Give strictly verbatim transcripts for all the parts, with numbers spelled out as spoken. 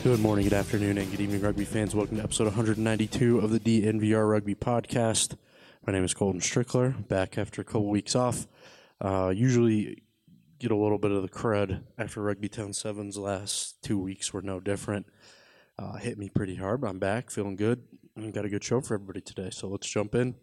Good morning, good afternoon, and good evening, rugby fans. Welcome to episode one ninety-two of the D N V R Rugby Podcast. My name is Colton Strickler, back after a couple weeks off. Uh, usually get a little bit of the crud after Rugby Town seven's last two weeks were no different. Uh, hit me pretty hard, but I'm back, feeling good, and got a good show for everybody today. So let's jump in.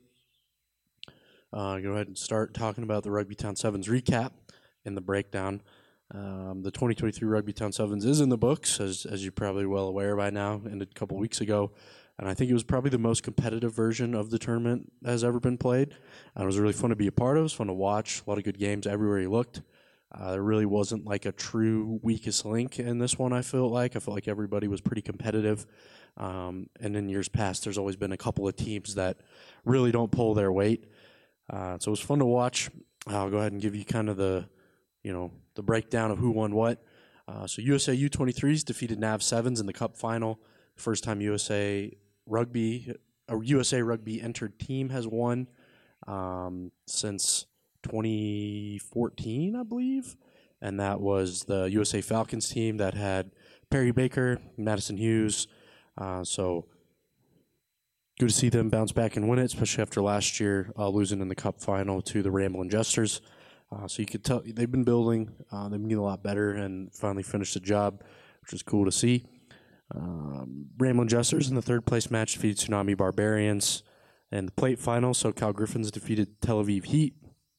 Uh, go ahead and start talking about the Rugby Town seven's recap and the breakdown. Um, the twenty twenty-three Rugby Town sevens is in the books, as as you're probably well aware by now, ended a couple weeks ago. And I think it was probably the most competitive version of the tournament that has ever been played. And it was really fun to be a part of. It was fun to watch. A lot of good games everywhere you looked. Uh, there really wasn't like a true weakest link in this one, I feel like. I felt like everybody was pretty competitive. Um, and in years past, there's always been a couple of teams that really don't pull their weight. Uh, so it was fun to watch. I'll go ahead and give you kind of the, you know, the breakdown of who won what. Uh, so U S A U twenty-threes defeated N A V sevens in the Cup final. First time U S A Rugby, or U S A Rugby entered team has won um, since twenty fourteen, I believe. And that was the U S A Falcons team that had Perry Baker, Madison Hughes. Uh, so good to see them bounce back and win it, especially after last year uh, losing in the Cup final to the Ramblin' Jesters. Uh, so you could tell they've been building. Uh, they've been getting a lot better and finally finished the job, which is cool to see. Um, Ramblin' Jesters in the third place match defeated Tsunami Barbarians. In the plate final, SoCal Griffins defeated Tel Aviv Heat.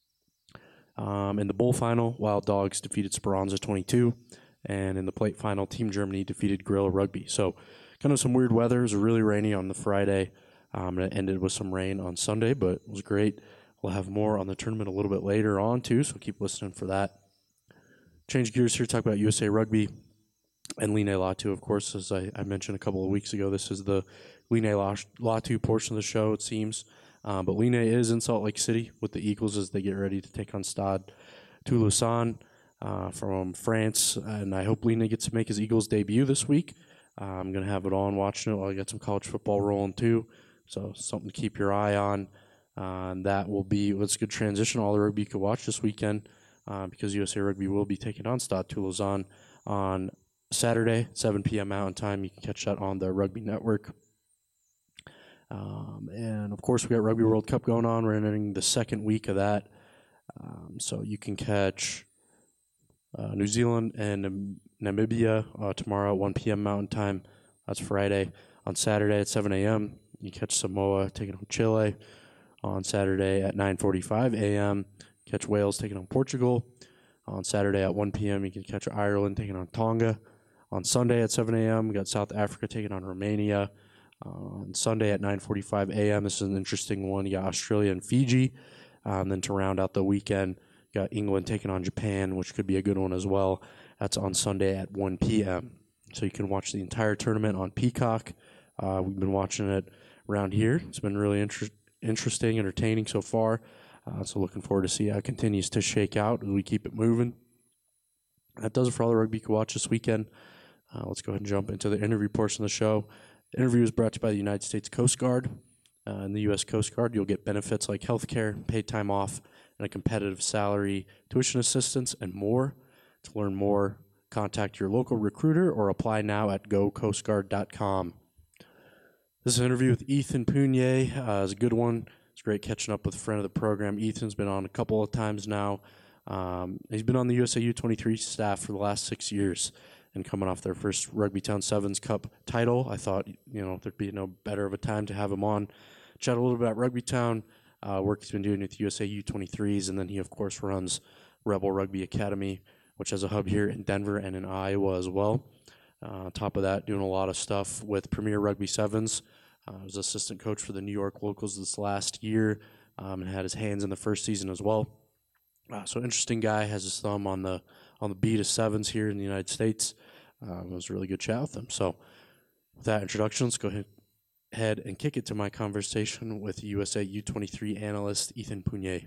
Um, in the bowl final, Wild Dogs defeated Speranza twenty-two. And in the plate final, Team Germany defeated Guerrilla Rugby. So kind of some weird weather. It was really rainy on the Friday. Um, and it ended with some rain on Sunday, but it was great. We'll have more on the tournament a little bit later on, too, so keep listening for that. Change gears here, talk about U S A Rugby and Line Latu, of course. As I, I mentioned a couple of weeks ago, this is the Line Latu portion of the show, it seems. Um, but Line is in Salt Lake City with the Eagles as they get ready to take on Stade Toulousain uh, from France. And I hope Line gets to make his Eagles debut this week. Uh, I'm going to have it on watching it while I got some college football rolling, too. So something to keep your eye on. Uh, and that will be, let's good transition, all the rugby you could watch this weekend uh, because U S A Rugby will be taking on Stade Toulousain on Saturday, seven p.m. Mountain Time. You can catch that on the Rugby Network. Um, and, of course, we got Rugby World Cup going on. We're entering the second week of that. Um, so you can catch uh, New Zealand and Nam- Namibia uh, tomorrow at one p.m. Mountain Time. That's Friday. On Saturday at seven a.m., you catch Samoa taking on Chile. On Saturday at nine forty-five a.m., catch Wales taking on Portugal. On Saturday at one p.m., you can catch Ireland taking on Tonga. On Sunday at seven a.m., we got South Africa taking on Romania. Uh, on Sunday at nine forty-five a.m., this is an interesting one. You got Australia and Fiji. Uh, and then to round out the weekend, you got England taking on Japan, which could be a good one as well. That's on Sunday at one p.m. So you can watch the entire tournament on Peacock. Uh, we've been watching it around here. It's been really interesting. Interesting, entertaining so far. Uh, so looking forward to see how it continues to shake out as we keep it moving. That does it for all the rugby you can watch this weekend. Uh, let's go ahead and jump into the interview portion of the show. The interview is brought to you by the United States Coast Guard. Uh, in the U S Coast Guard, you'll get benefits like health care, paid time off, and a competitive salary, tuition assistance, and more. To learn more, contact your local recruiter or apply now at go coast guard dot com. This is an interview with Ethan Punier. Uh, it's a good one. It's great catching up with a friend of the program. Ethan's been on a couple of times now. Um, he's been on the U S A U twenty-three staff for the last six years and coming off their first Rugby Town Sevens Cup title. I thought, you know, there'd be no better of a time to have him on. Chat a little bit about Rugby Town, uh, work he's been doing with U S A U twenty-threes, and then he, of course, runs Rebel Rugby Academy, which has a hub here in Denver and in Iowa as well. Uh, on top of that, doing a lot of stuff with Premier Rugby Sevens. Uh, I was assistant coach for the New York Locals this last year um, and had his hands in the first season as well. Uh, so interesting guy, has his thumb on the on the beat of sevens here in the United States. Um, it was a really good chat with him. So with that introduction, let's go ahead and kick it to my conversation with U S A U twenty-three analyst Ethan Punier.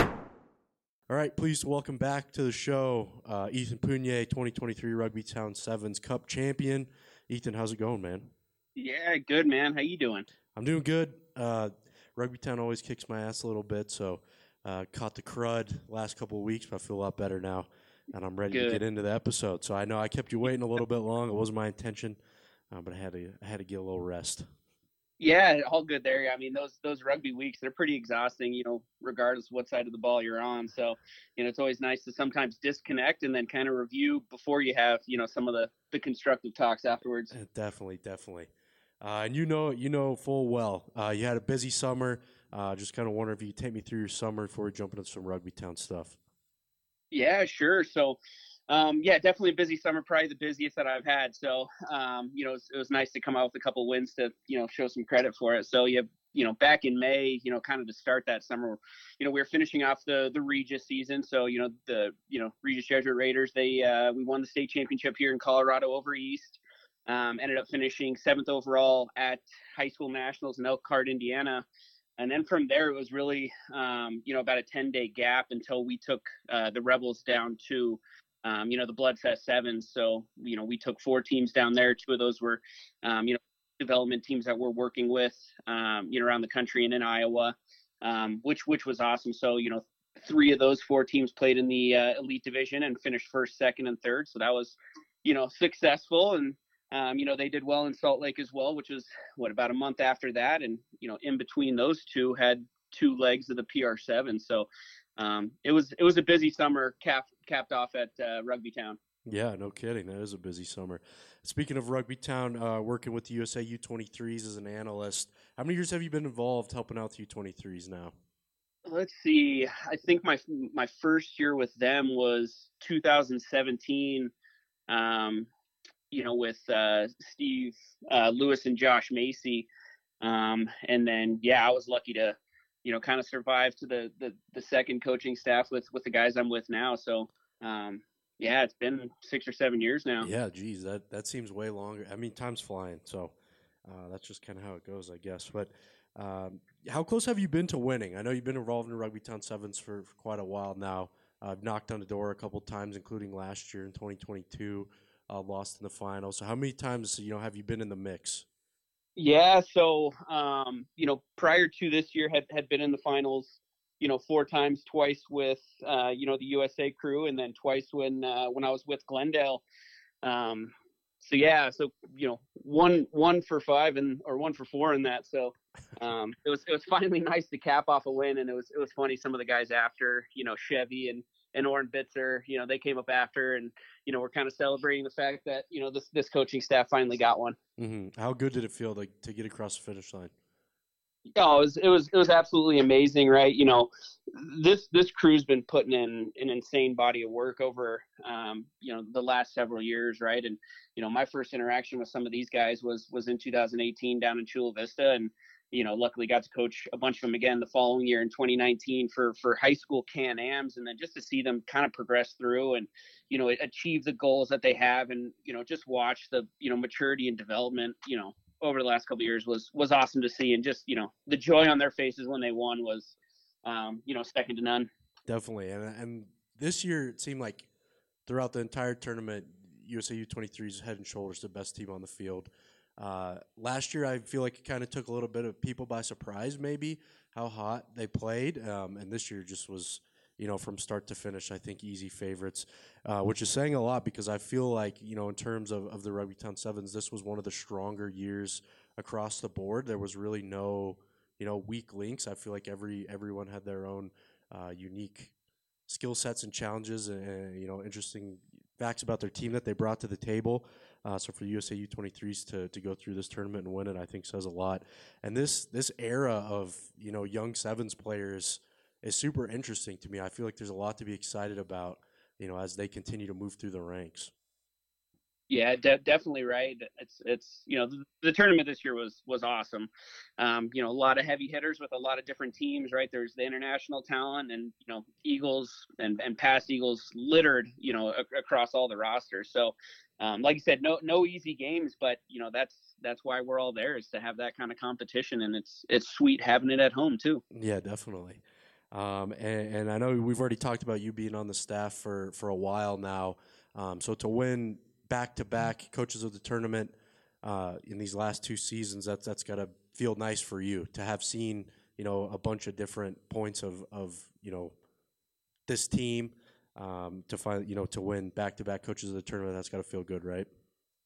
All right, please welcome back to the show, uh, Ethan Punier, twenty twenty-three Rugby Town Sevens Cup champion. Ethan, how's it going, man? Yeah, good, man. How you doing? I'm doing good. Uh, Rugby Town always kicks my ass a little bit, so uh, caught the crud last couple of weeks, but I feel a lot better now, and I'm ready Good. to get into the episode. So I know I kept you waiting a little bit long. It wasn't my intention. uh, but I had to I had to get a little rest. Yeah, all good there. I mean, those those rugby weeks, they're pretty exhausting, you know, regardless of what side of the ball you're on. So, you know, it's always nice to sometimes disconnect and then kind of review before you have, you know, some of the the constructive talks afterwards. Uh, Definitely, definitely. Uh, and you know, you know full well. Uh, you had a busy summer. Uh, just kind of wonder if you could take me through your summer before we jump into some Rugby Town stuff. Yeah, sure. So, um, yeah, definitely a busy summer, probably the busiest that I've had. So, um, you know, it was, it was nice to come out with a couple wins to, you know, show some credit for it. So, you you know, back in May, you know, kind of to start that summer, you know, we were finishing off the the Regis season. So, you know, the you know Regis Jesuit Raiders, they uh, we won the state championship here in Colorado over East. Um, ended up finishing seventh overall at high school nationals in Elkhart, Indiana. And then from there, it was really, um, you know, about a ten day gap until we took uh, the Rebels down to, um, you know, the Bloodfest Sevens. So, you know, we took four teams down there. Two of those were, um, you know, development teams that we're working with, um, you know, around the country and in Iowa, um, which which was awesome. So, you know, three of those four teams played in the uh, elite division and finished first, second, and third. So that was, you know, successful. And um, you know, they did well in Salt Lake as well, which was what, about a month after that. And, you know, in between those two had two legs of the P R seven. So um, it was, it was a busy summer capped, capped off at uh, Rugby Town. Yeah, no kidding. That is a busy summer. Speaking of Rugby Town, uh, working with the U S A U twenty-threes as an analyst, how many years have you been involved helping out the U twenty-threes now? Let's see. I think my, my first year with them was two thousand seventeen. Um, you know, with uh, Steve uh, Lewis and Josh Macy. Um, and then, yeah, I was lucky to, you know, kind of survive to the, the, the second coaching staff with, with the guys I'm with now. So, um, yeah, it's been six or seven years now. Yeah, geez, that, that seems way longer. I mean, time's flying, so uh, that's just kind of how it goes, I guess. But um, how close have you been to winning? I know you've been involved in Rugby Town Sevens for, for quite a while now. I've uh, knocked on the door a couple times, including last year in twenty twenty-two, uh, lost in the final. So how many times, you know, have you been in the mix? Yeah. So, um, you know, prior to this year had, had been in the finals, you know, four times, twice with, uh, you know, the U S A crew, and then twice when, uh, when I was with Glendale. Um, so yeah, so you know, one one for five and or one for four in that. So um, it was it was finally nice to cap off a win, and it was it was funny. Some of the guys after, you know, Chevy and and Oren Bitzer, you know, they came up after, and you know, we're kind of celebrating the fact that you know this this coaching staff finally got one. Mm-hmm. How good did it feel like to get across the finish line? Oh, it was it was it was absolutely amazing, right? You know, this this crew's been putting in an insane body of work over um, you know, the last several years, right? And you know, my first interaction with some of these guys was was in two thousand eighteen down in Chula Vista, and you know, luckily got to coach a bunch of them again the following year in twenty nineteen for for high school Can-Ams, and then just to see them kind of progress through and you know, achieve the goals that they have, and you know, just watch the you know maturity and development, you know, over the last couple of years was was awesome to see, and just you know the joy on their faces when they won was um, you know second to none. Definitely, and and this year it seemed like throughout the entire tournament, U S A U twenty-three is head and shoulders the best team on the field. Uh, last year, I feel like it kind of took a little bit of people by surprise, maybe how hot they played, um, and this year just was, you know, from start to finish, I think easy favorites, uh, which is saying a lot because I feel like, you know, in terms of, of the Rugby Town Sevens, this was one of the stronger years across the board. There was really no, you know, weak links. I feel like every everyone had their own uh, unique skill sets and challenges and, and, you know, interesting facts about their team that they brought to the table. Uh, so for U S A U twenty-threes to, to go through this tournament and win it, I think says a lot. And this this era of, you know, young sevens players is super interesting to me. I feel like there's a lot to be excited about, you know, as they continue to move through the ranks. Yeah, de- definitely right. It's it's you know the, the tournament this year was was awesome. Um, you know, a lot of heavy hitters with a lot of different teams. Right, there's the international talent, and you know Eagles and and past Eagles littered, you know, a- across all the rosters. So, um, like you said, no no easy games, but you know that's that's why we're all there, is to have that kind of competition, and it's it's sweet having it at home too. Yeah, definitely. Um, and, and I know we've already talked about you being on the staff for, for a while now. Um, so to win back to back coaches of the tournament uh, in these last two seasons, that's that's got to feel nice for you to have seen, you know, a bunch of different points of, of you know, this team um, to find, you know, to win back to back coaches of the tournament. That's got to feel good, right?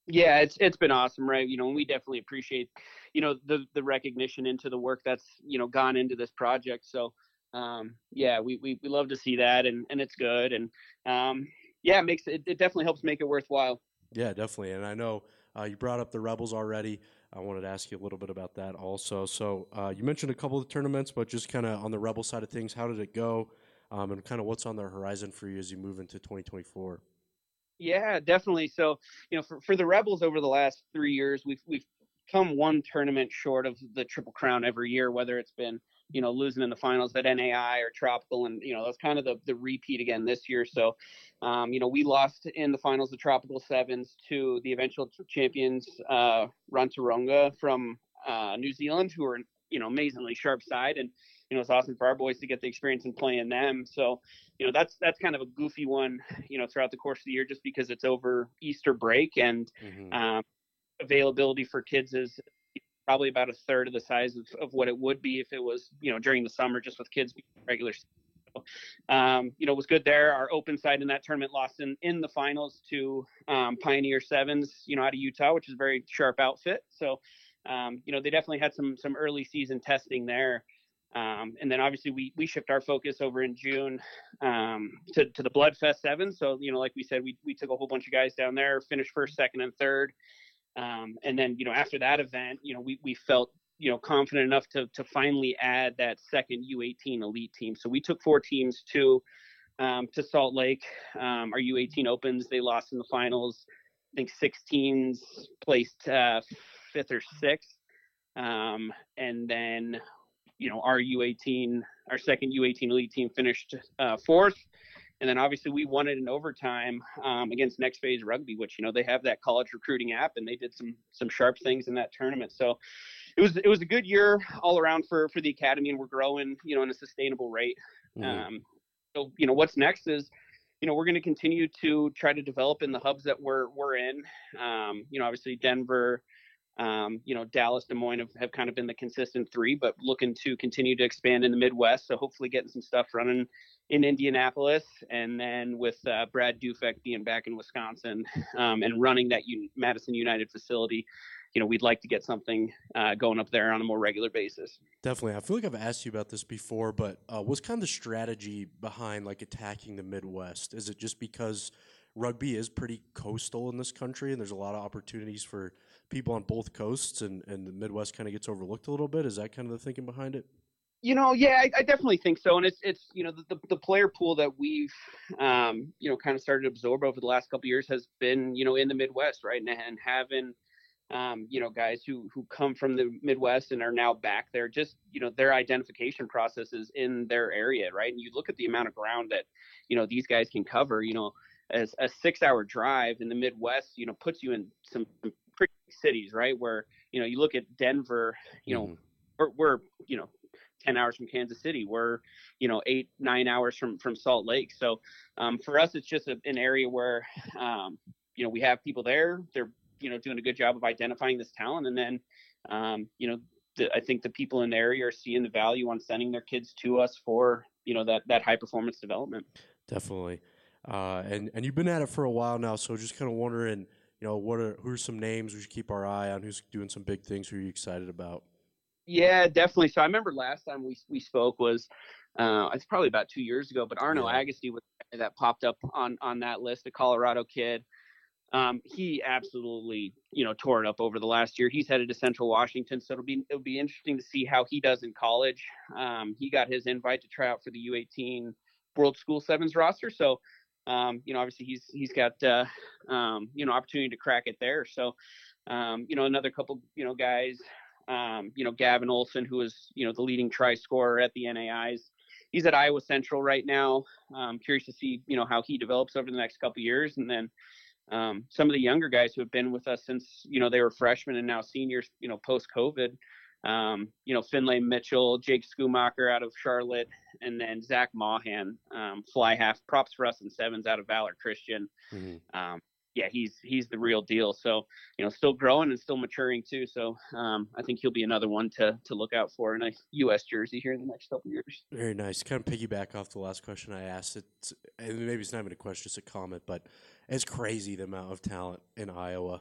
Yeah, it's it's been awesome, right? You know, and we definitely appreciate, you know, the the recognition into the work that's, you know, gone into this project. So, um, yeah, we, we we love to see that, and and it's good, and um, yeah, it makes it, it definitely helps make it worthwhile. Yeah, definitely. And I know uh, you brought up the Rebels already. I wanted to ask you a little bit about that also. So uh, you mentioned a couple of tournaments, but just kind of on the Rebel side of things, how did it go? Um, and kind of what's on the horizon for you as you move into twenty twenty-four? Yeah, definitely. So, you know, for, for the Rebels over the last three years, we've we've come one tournament short of the Triple Crown every year, whether it's been, you know, losing in the finals at N A I or Tropical, and you know that's kind of the the repeat again this year. So, um, you know, we lost in the finals of Tropical Sevens to the eventual champions, uh, Rantaronga from uh, New Zealand, who are, you know, amazingly sharp side, and you know it's awesome for our boys to get the experience in playing them. So, you know, that's that's kind of a goofy one, you know, throughout the course of the year, just because it's over Easter break, and Mm-hmm. um, availability for kids is probably about a third of the size of, of what it would be if it was, you know, during the summer, just with kids being regular. So, um, you know, it was good there. Our open side in that tournament lost in, in the finals to um, Pioneer Sevens, you know, out of Utah, which is a very sharp outfit. So, um, you know, they definitely had some some early season testing there. Um, and then obviously we we shift our focus over in June um, to to the Bloodfest Seven. So, you know, like we said, we we took a whole bunch of guys down there, finished first, second, and third. Um, and then, you know, after that event, you know, we, we felt, you know, confident enough to, to finally add that second U eighteen elite team. So we took four teams to, um, to Salt Lake. Um, our U eighteen opens, they lost in the finals. I think sixteens placed uh, fifth or sixth. Um, and then, you know, our U eighteen, our second U eighteen elite team finished uh, fourth. And then obviously we won it in overtime um, against Next Phase Rugby, which, you know, they have that college recruiting app, and they did some some sharp things in that tournament. So it was it was a good year all around for for the academy, and we're growing, you know, in a sustainable rate. Mm-hmm. Um, so you know what's next is, you know, we're going to continue to try to develop in the hubs that we're we're in. Um, you know, obviously Denver, um, you know, Dallas, Des Moines have, have kind of been the consistent three, but looking to continue to expand in the Midwest. So hopefully getting some stuff running in Indianapolis, and then with uh, Brad Dufek being back in Wisconsin um, and running that Un- Madison United facility, you know, we'd like to get something uh, going up there on a more regular basis. Definitely. I feel like I've asked you about this before, but uh, what's kind of the strategy behind like attacking the Midwest? Is it just because rugby is pretty coastal in this country and there's a lot of opportunities for people on both coasts and, and the Midwest kind of gets overlooked a little bit? Is that kind of the thinking behind it? You know, yeah, I, I definitely think so, and it's it's you know the, the, the player pool that we've um, you know kind of started to absorb over the last couple of years has been, you know, in the Midwest, right, and, and having um, you know, guys who who come from the Midwest and are now back there. Just, you know, their identification processes in their area, right? And you look at the amount of ground that, you know, these guys can cover. You know, as a six-hour drive in the Midwest, you know, puts you in some pretty big cities, right? Where, you know, you look at Denver, you know, Mm-hmm. we're, we're you know, ten hours from Kansas City. We're, you know, eight, nine hours from, from Salt Lake. So um, for us, it's just a, an area where, um, you know, we have people there. They're, you know, doing a good job of identifying this talent. And then, um, you know, the, I think the people in the area are seeing the value on sending their kids to us for, you know, that, that high performance development. Definitely. Uh, and, and you've been at it for a while now, so just kind of wondering, you know, what are who are some names we should keep our eye on? Who's doing some big things? Who are you excited about? Yeah, definitely. So I remember last time we we spoke was uh, it's probably about two years ago, but Arno Yeah. Agassi was that popped up on on that list, a Colorado kid. Um, he absolutely, you know, tore it up over the last year. He's headed to Central Washington, so it'll be it'll be interesting to see how he does in college. Um, he got his invite to try out for the U eighteen World School Sevens roster, so um, you know, obviously he's he's got uh, um, you know, opportunity to crack it there. So um, you know, another couple, you know, guys, um, you know, Gavin Olson, who is, you know, the leading try scorer at the N A Is. He's at Iowa Central right now. Um, curious to see, you know, how he develops over the next couple of years, and then um, some of the younger guys who have been with us since, you know, they were freshmen and now seniors, you know, post COVID. Um, you know, Finlay Mitchell, Jake Schumacher out of Charlotte, and then Zach Mahan, um, fly half. Props for us in sevens out of Valor Christian. Mm-hmm. Um, yeah, he's he's the real deal. So, you know, still growing and still maturing too. So um, I think he'll be another one to to look out for in a U S jersey here in the next couple of years. Very nice. Kind of piggyback off the last question I asked. It's, and maybe it's not even a question, just a comment, but it's crazy the amount of talent in Iowa.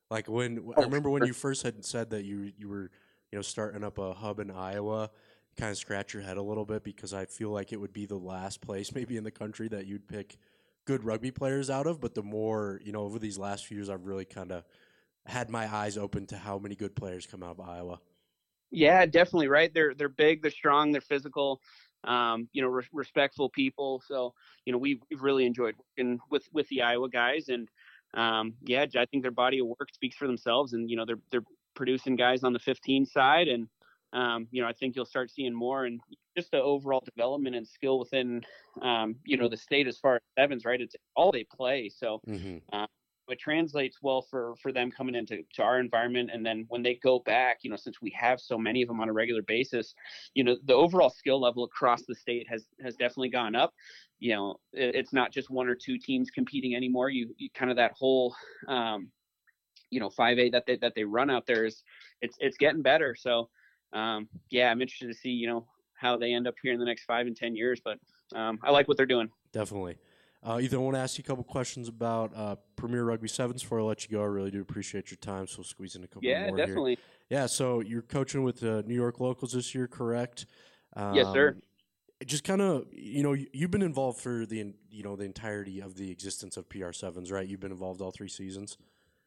Like when I Oh, remember when sure. you first had said that you you were you know starting up a hub in Iowa, kind of scratch your head a little bit because I feel like it would be the last place maybe in the country that you'd pick good rugby players out of. But the more you know, over these last few years, I've really kind of had my eyes open to how many good players come out of Iowa. Yeah, definitely. Right. They're they're big. They're strong. They're physical. Um, you know, re- respectful people. So you know, we've we've really enjoyed working with with the Iowa guys, and um, yeah, I think their body of work speaks for themselves. And you know, they're they're producing guys on the fifteen side, and um, you know, I think you'll start seeing more and just the overall development and skill within um, you know the state as far as sevens. Right. It's all they play. So. Mm-hmm. Um, it translates well for for them coming into to our environment, and then when they go back, you know, since we have so many of them on a regular basis, you know, the overall skill level across the state has has definitely gone up. You know, it, it's not just one or two teams competing anymore. You, you kind of that whole um, you know five A that they that they run out there is it's it's getting better. So um, yeah, I'm interested to see you know how they end up here in the next five and ten years, but um, I like what they're doing. Definitely. Uh, Ethan, I want to ask you a couple questions about uh, Premier Rugby Sevens before I let you go. I really do appreciate your time, so we'll squeeze in a couple Yeah, more here. definitely. Yeah, so you're coaching with the New York Locals this year, correct? Yes, sir. Um, just kind of, you know, you- you've been involved for the, you know, the entirety of the existence of P R sevens, right? You've been involved all three seasons.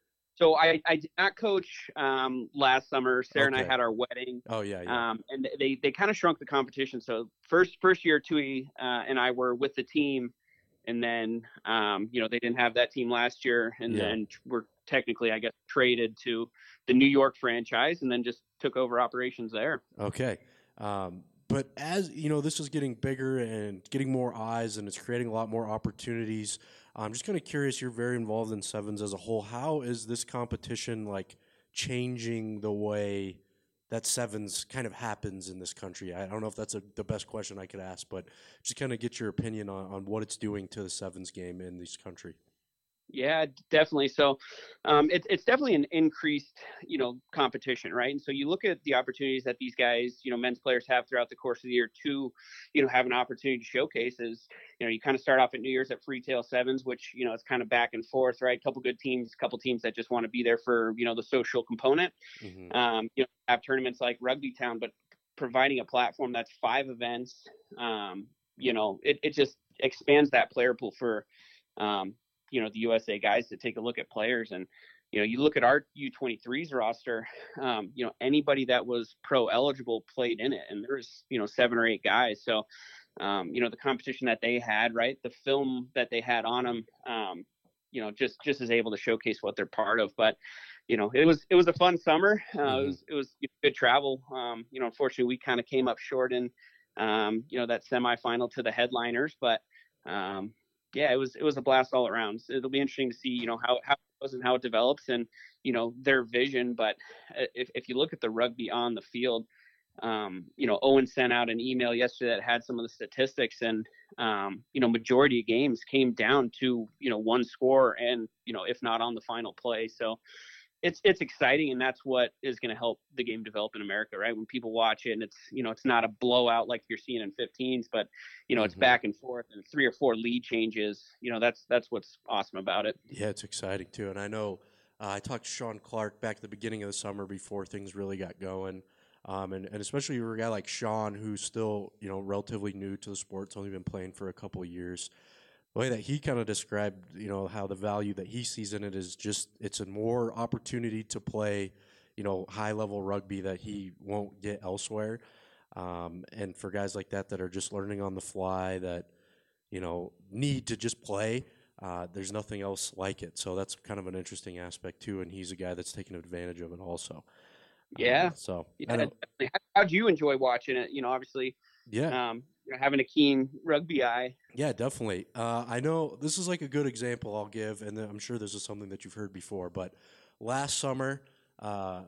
So I, I did not coach um, last summer. Sarah and I Okay. had our wedding, Oh yeah, yeah. um, and they they kind of shrunk the competition. So first first year, Tui uh, and I were with the team, and then um, you know they didn't have that team last year, and Yeah. then we're technically, I guess, traded to the New York franchise, and then just took over operations there. Okay. Um, but as you know, this is getting bigger and getting more eyes, and it's creating a lot more opportunities. I'm just kind of curious. You're very involved in sevens as a whole. How is this competition like changing the way that sevens kind of happens in this country? I don't know if that's a, the best question I could ask, but just kind of get your opinion on, on what it's doing to the sevens game in this country. Yeah, definitely. So um, it, it's definitely an increased, you know, competition, right? And so you look at the opportunities that these guys, you know, men's players have throughout the course of the year to, you know, have an opportunity to showcase is, you know, you kind of start off at New Year's at Freetail Sevens, which, you know, it's kind of back and forth, right? A couple good teams, a couple teams that just want to be there for, you know, the social component. Mm-hmm. Um, you know, have tournaments like Rugby Town, but providing a platform that's five events, um, you know, it, it just expands that player pool for, um, you know, the U S A guys to take a look at players. And, you know, you look at our U twenty-threes roster, um, you know, anybody that was pro eligible played in it. And there's, you know, seven or eight guys. So, um, you know, the competition that they had, right, the film that they had on them, um, you know, just just is able to showcase what they're part of. But, you know, it was it was a fun summer. Uh, Mm-hmm. It was it was good travel. Um, you know, unfortunately, we kind of came up short in, um, you know, that semifinal to the headliners, but um, yeah, it was it was a blast all around. So it'll be interesting to see, you know, how how it goes and how it develops, and you know their vision. But if if you look at the rugby on the field, um, you know, Owen sent out an email yesterday that had some of the statistics, and um, you know, majority of games came down to you know one score, and you know, if not on the final play. So it's it's exciting, and that's what is going to help the game develop in America, right? When people watch it, and it's you know it's not a blowout like you're seeing in fifteens, but you know it's Mm-hmm. back and forth and three or four lead changes. You know that's that's what's awesome about it. Yeah, it's exciting too. And I know uh, I talked to Sean Clark back at the beginning of the summer before things really got going. Um, and, and especially for a guy like Sean, who's still, you know, relatively new to the sport, it's only been playing for a couple of years. The way that he kind of described, you know, how the value that he sees in it is just it's a more opportunity to play, you know, high level rugby that he won't get elsewhere. Um, and for guys like that that are just learning on the fly, that you know need to just play, uh, there's nothing else like it. So that's kind of an interesting aspect too. And he's a guy that's taking advantage of it also. Uh, Yeah, so yeah. I know, Definitely. How, how'd you enjoy watching it? You know, obviously, yeah, um, you know, having a keen rugby eye. yeah, definitely. Uh, I know this is like a good example I'll give, and I'm sure this is something that you've heard before. But last summer, uh,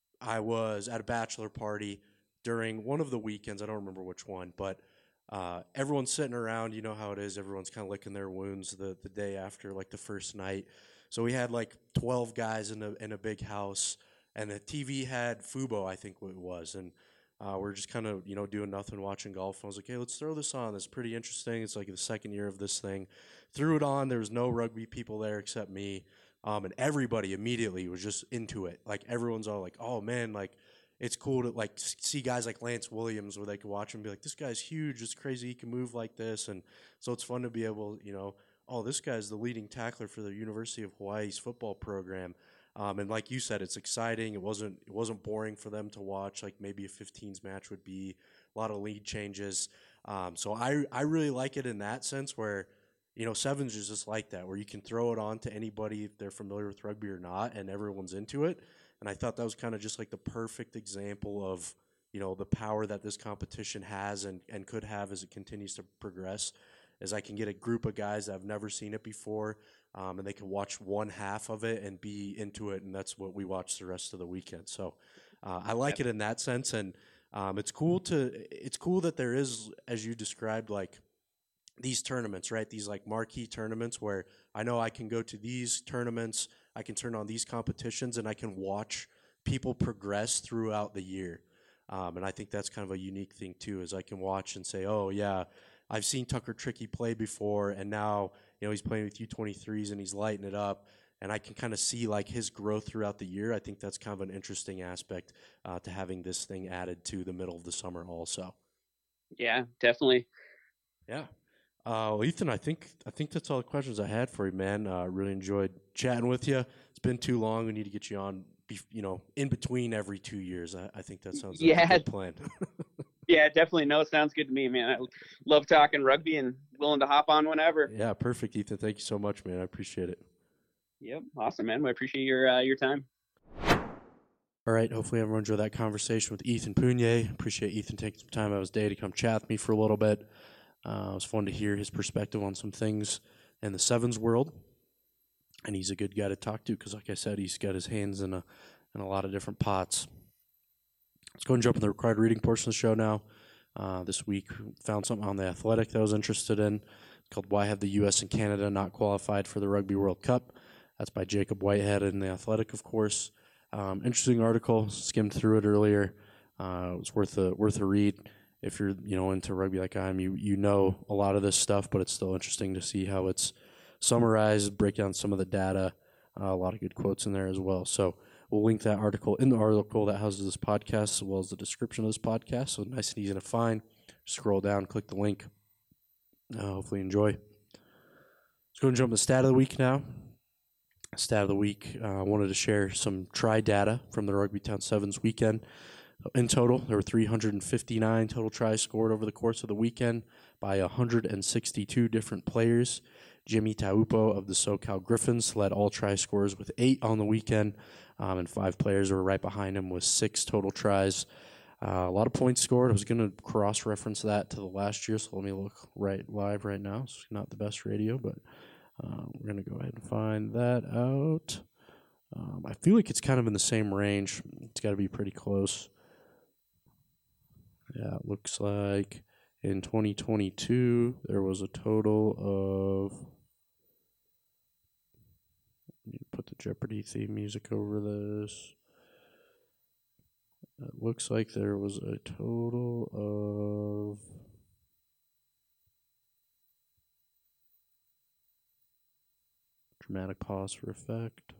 I was at a bachelor party during one of the weekends. I don't remember which one, but uh, everyone's sitting around. You know how it is. Everyone's kind of licking their wounds the, the day after, like the first night. So we had like twelve guys in a in a big house, and the T V had Fubo, I think what it was, and uh, we're just kind of you know doing nothing, watching golf. And I was like, hey, let's throw this on. It's pretty interesting. It's like the second year of this thing. Threw it on. There was no rugby people there except me. Um, and everybody immediately was just into it. Like everyone's all like, "Oh man, like it's cool to like see guys like Lance Williams where they can watch him and be like, this guy's huge. It's crazy he can move like this." And so it's fun to be able, you know, oh, this guy's the leading tackler for the University of Hawaii's football program. Um, and like you said, it's exciting. It wasn't it wasn't boring for them to watch, like maybe a fifteens match would be. A lot of lead changes. Um, so I I really like it in that sense where, you know, sevens is just like that, where you can throw it on to anybody if they're familiar with rugby or not, and everyone's into it. And I thought that was kind of just like the perfect example of, you know, the power that this competition has and, and could have as it continues to progress. As I can get a group of guys that have never seen it before, um, and they can watch one half of it and be into it, and that's what we watch the rest of the weekend. So uh, I like yep. it in that sense, and um, it's cool to it's cool that there is, as you described, like these tournaments, right? These like marquee tournaments where I know I can go to these tournaments, I can turn on these competitions, and I can watch people progress throughout the year. Um, and I think that's kind of a unique thing too, is I can watch and say, oh yeah, I've seen Tucker Trickey play before, and now, you know, he's playing with U twenty-threes and he's lighting it up, and I can kind of see like his growth throughout the year. I think that's kind of an interesting aspect uh, to having this thing added to the middle of the summer also. Yeah, definitely. Yeah. Uh, well, Ethan, I think I think that's all the questions I had for you, man. I uh, really enjoyed chatting with you. It's been too long. We need to get you on, you know, in between every two years. I, I think that sounds like yeah. a good plan. Yeah, definitely. No, sounds good to me, man. I love talking rugby and willing to hop on whenever. Yeah, perfect, Ethan. Thank you so much, man. I appreciate it. Yep, awesome, man. I appreciate your uh, your time. All right, hopefully everyone enjoyed that conversation with Ethan Punier. Appreciate Ethan taking some time out of his day to come chat with me for a little bit. Uh, it was fun to hear his perspective on some things in the sevens world, and he's a good guy to talk to because, like I said, he's got his hands in a in a lot of different pots. Let's go and jump in the required reading portion of the show now. Uh, this week, found something on The Athletic that I was interested in. It's called "Why Have the U S and Canada Not Qualified for the Rugby World Cup?" That's by Jacob Whitehead in The Athletic, of course. Um, interesting article. Skimmed through it earlier. Uh, it was worth a worth a read. If you're, you know, into rugby like I am, you you know a lot of this stuff, but it's still interesting to see how it's summarized, break down some of the data. Uh, a lot of good quotes in there as well. So we'll link that article in the article that houses this podcast, as well as the description of this podcast. So nice and easy to find. Scroll down, click the link. Uh, hopefully enjoy. Let's go and jump to the stat of the week now. Stat of the week, I uh, wanted to share some try data from the Rugby Town Sevens weekend. In total, there were three hundred fifty-nine total tries scored over the course of the weekend by one hundred sixty-two different players. Jimmy Taupo of the SoCal Griffins led all try scorers with eight on the weekend, um, and five players were right behind him with six total tries. Uh, a lot of points scored. I was going to cross-reference that to the last year, so let me look right live right now. It's not the best radio, but uh, we're going to go ahead and find that out. Um, I feel like it's kind of in the same range. It's got to be pretty close. Yeah, it looks like in twenty twenty-two, there was a total of, I need to put the Jeopardy theme music over this. It looks like there was a total of dramatic pause for effect.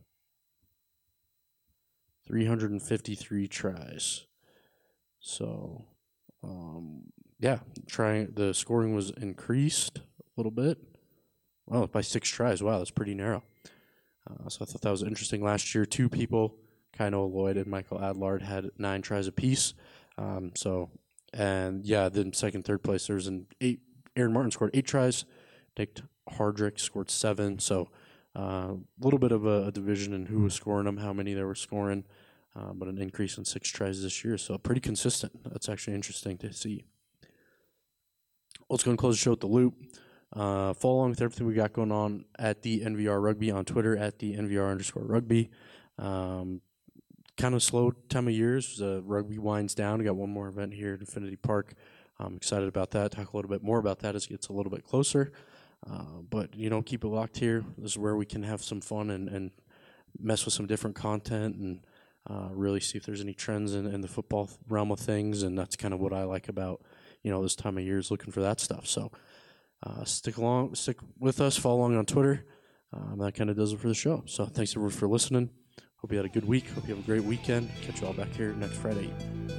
three hundred fifty-three tries. So, um, yeah, trying the scoring was increased a little bit. Well, by six tries. Wow, that's pretty narrow. Uh, so I thought that was interesting. Last year, two people, Kainoa Lloyd and Michael Adlard, had nine tries apiece. Um, so, and yeah, then second, third place, there was an eight. Aaron Martin scored eight tries. Nick Hardrick scored seven. So, a uh, little bit of a, a division in who was scoring them, how many they were scoring. Uh, but an increase in six tries this year, so pretty consistent. That's actually interesting to see. Let's go and close the show with the loop. Uh, follow along with everything we got going on at the N V R Rugby on Twitter at the N V R underscore Rugby. Um, kind of slow time of year as uh, rugby winds down. We got one more event here at Infinity Park. I'm excited about that. Talk a little bit more about that as it gets a little bit closer. Uh, but, you know, keep it locked here. This is where we can have some fun and, and mess with some different content and Uh, really see if there's any trends in, in the football realm of things, and that's kind of what I like about, you know, this time of year is looking for that stuff. So uh, stick along, stick with us, follow along on Twitter. um, that kind of does it for the show. So thanks everyone for listening. Hope you had a good week. Hope you have a great weekend. Catch you all back here next Friday.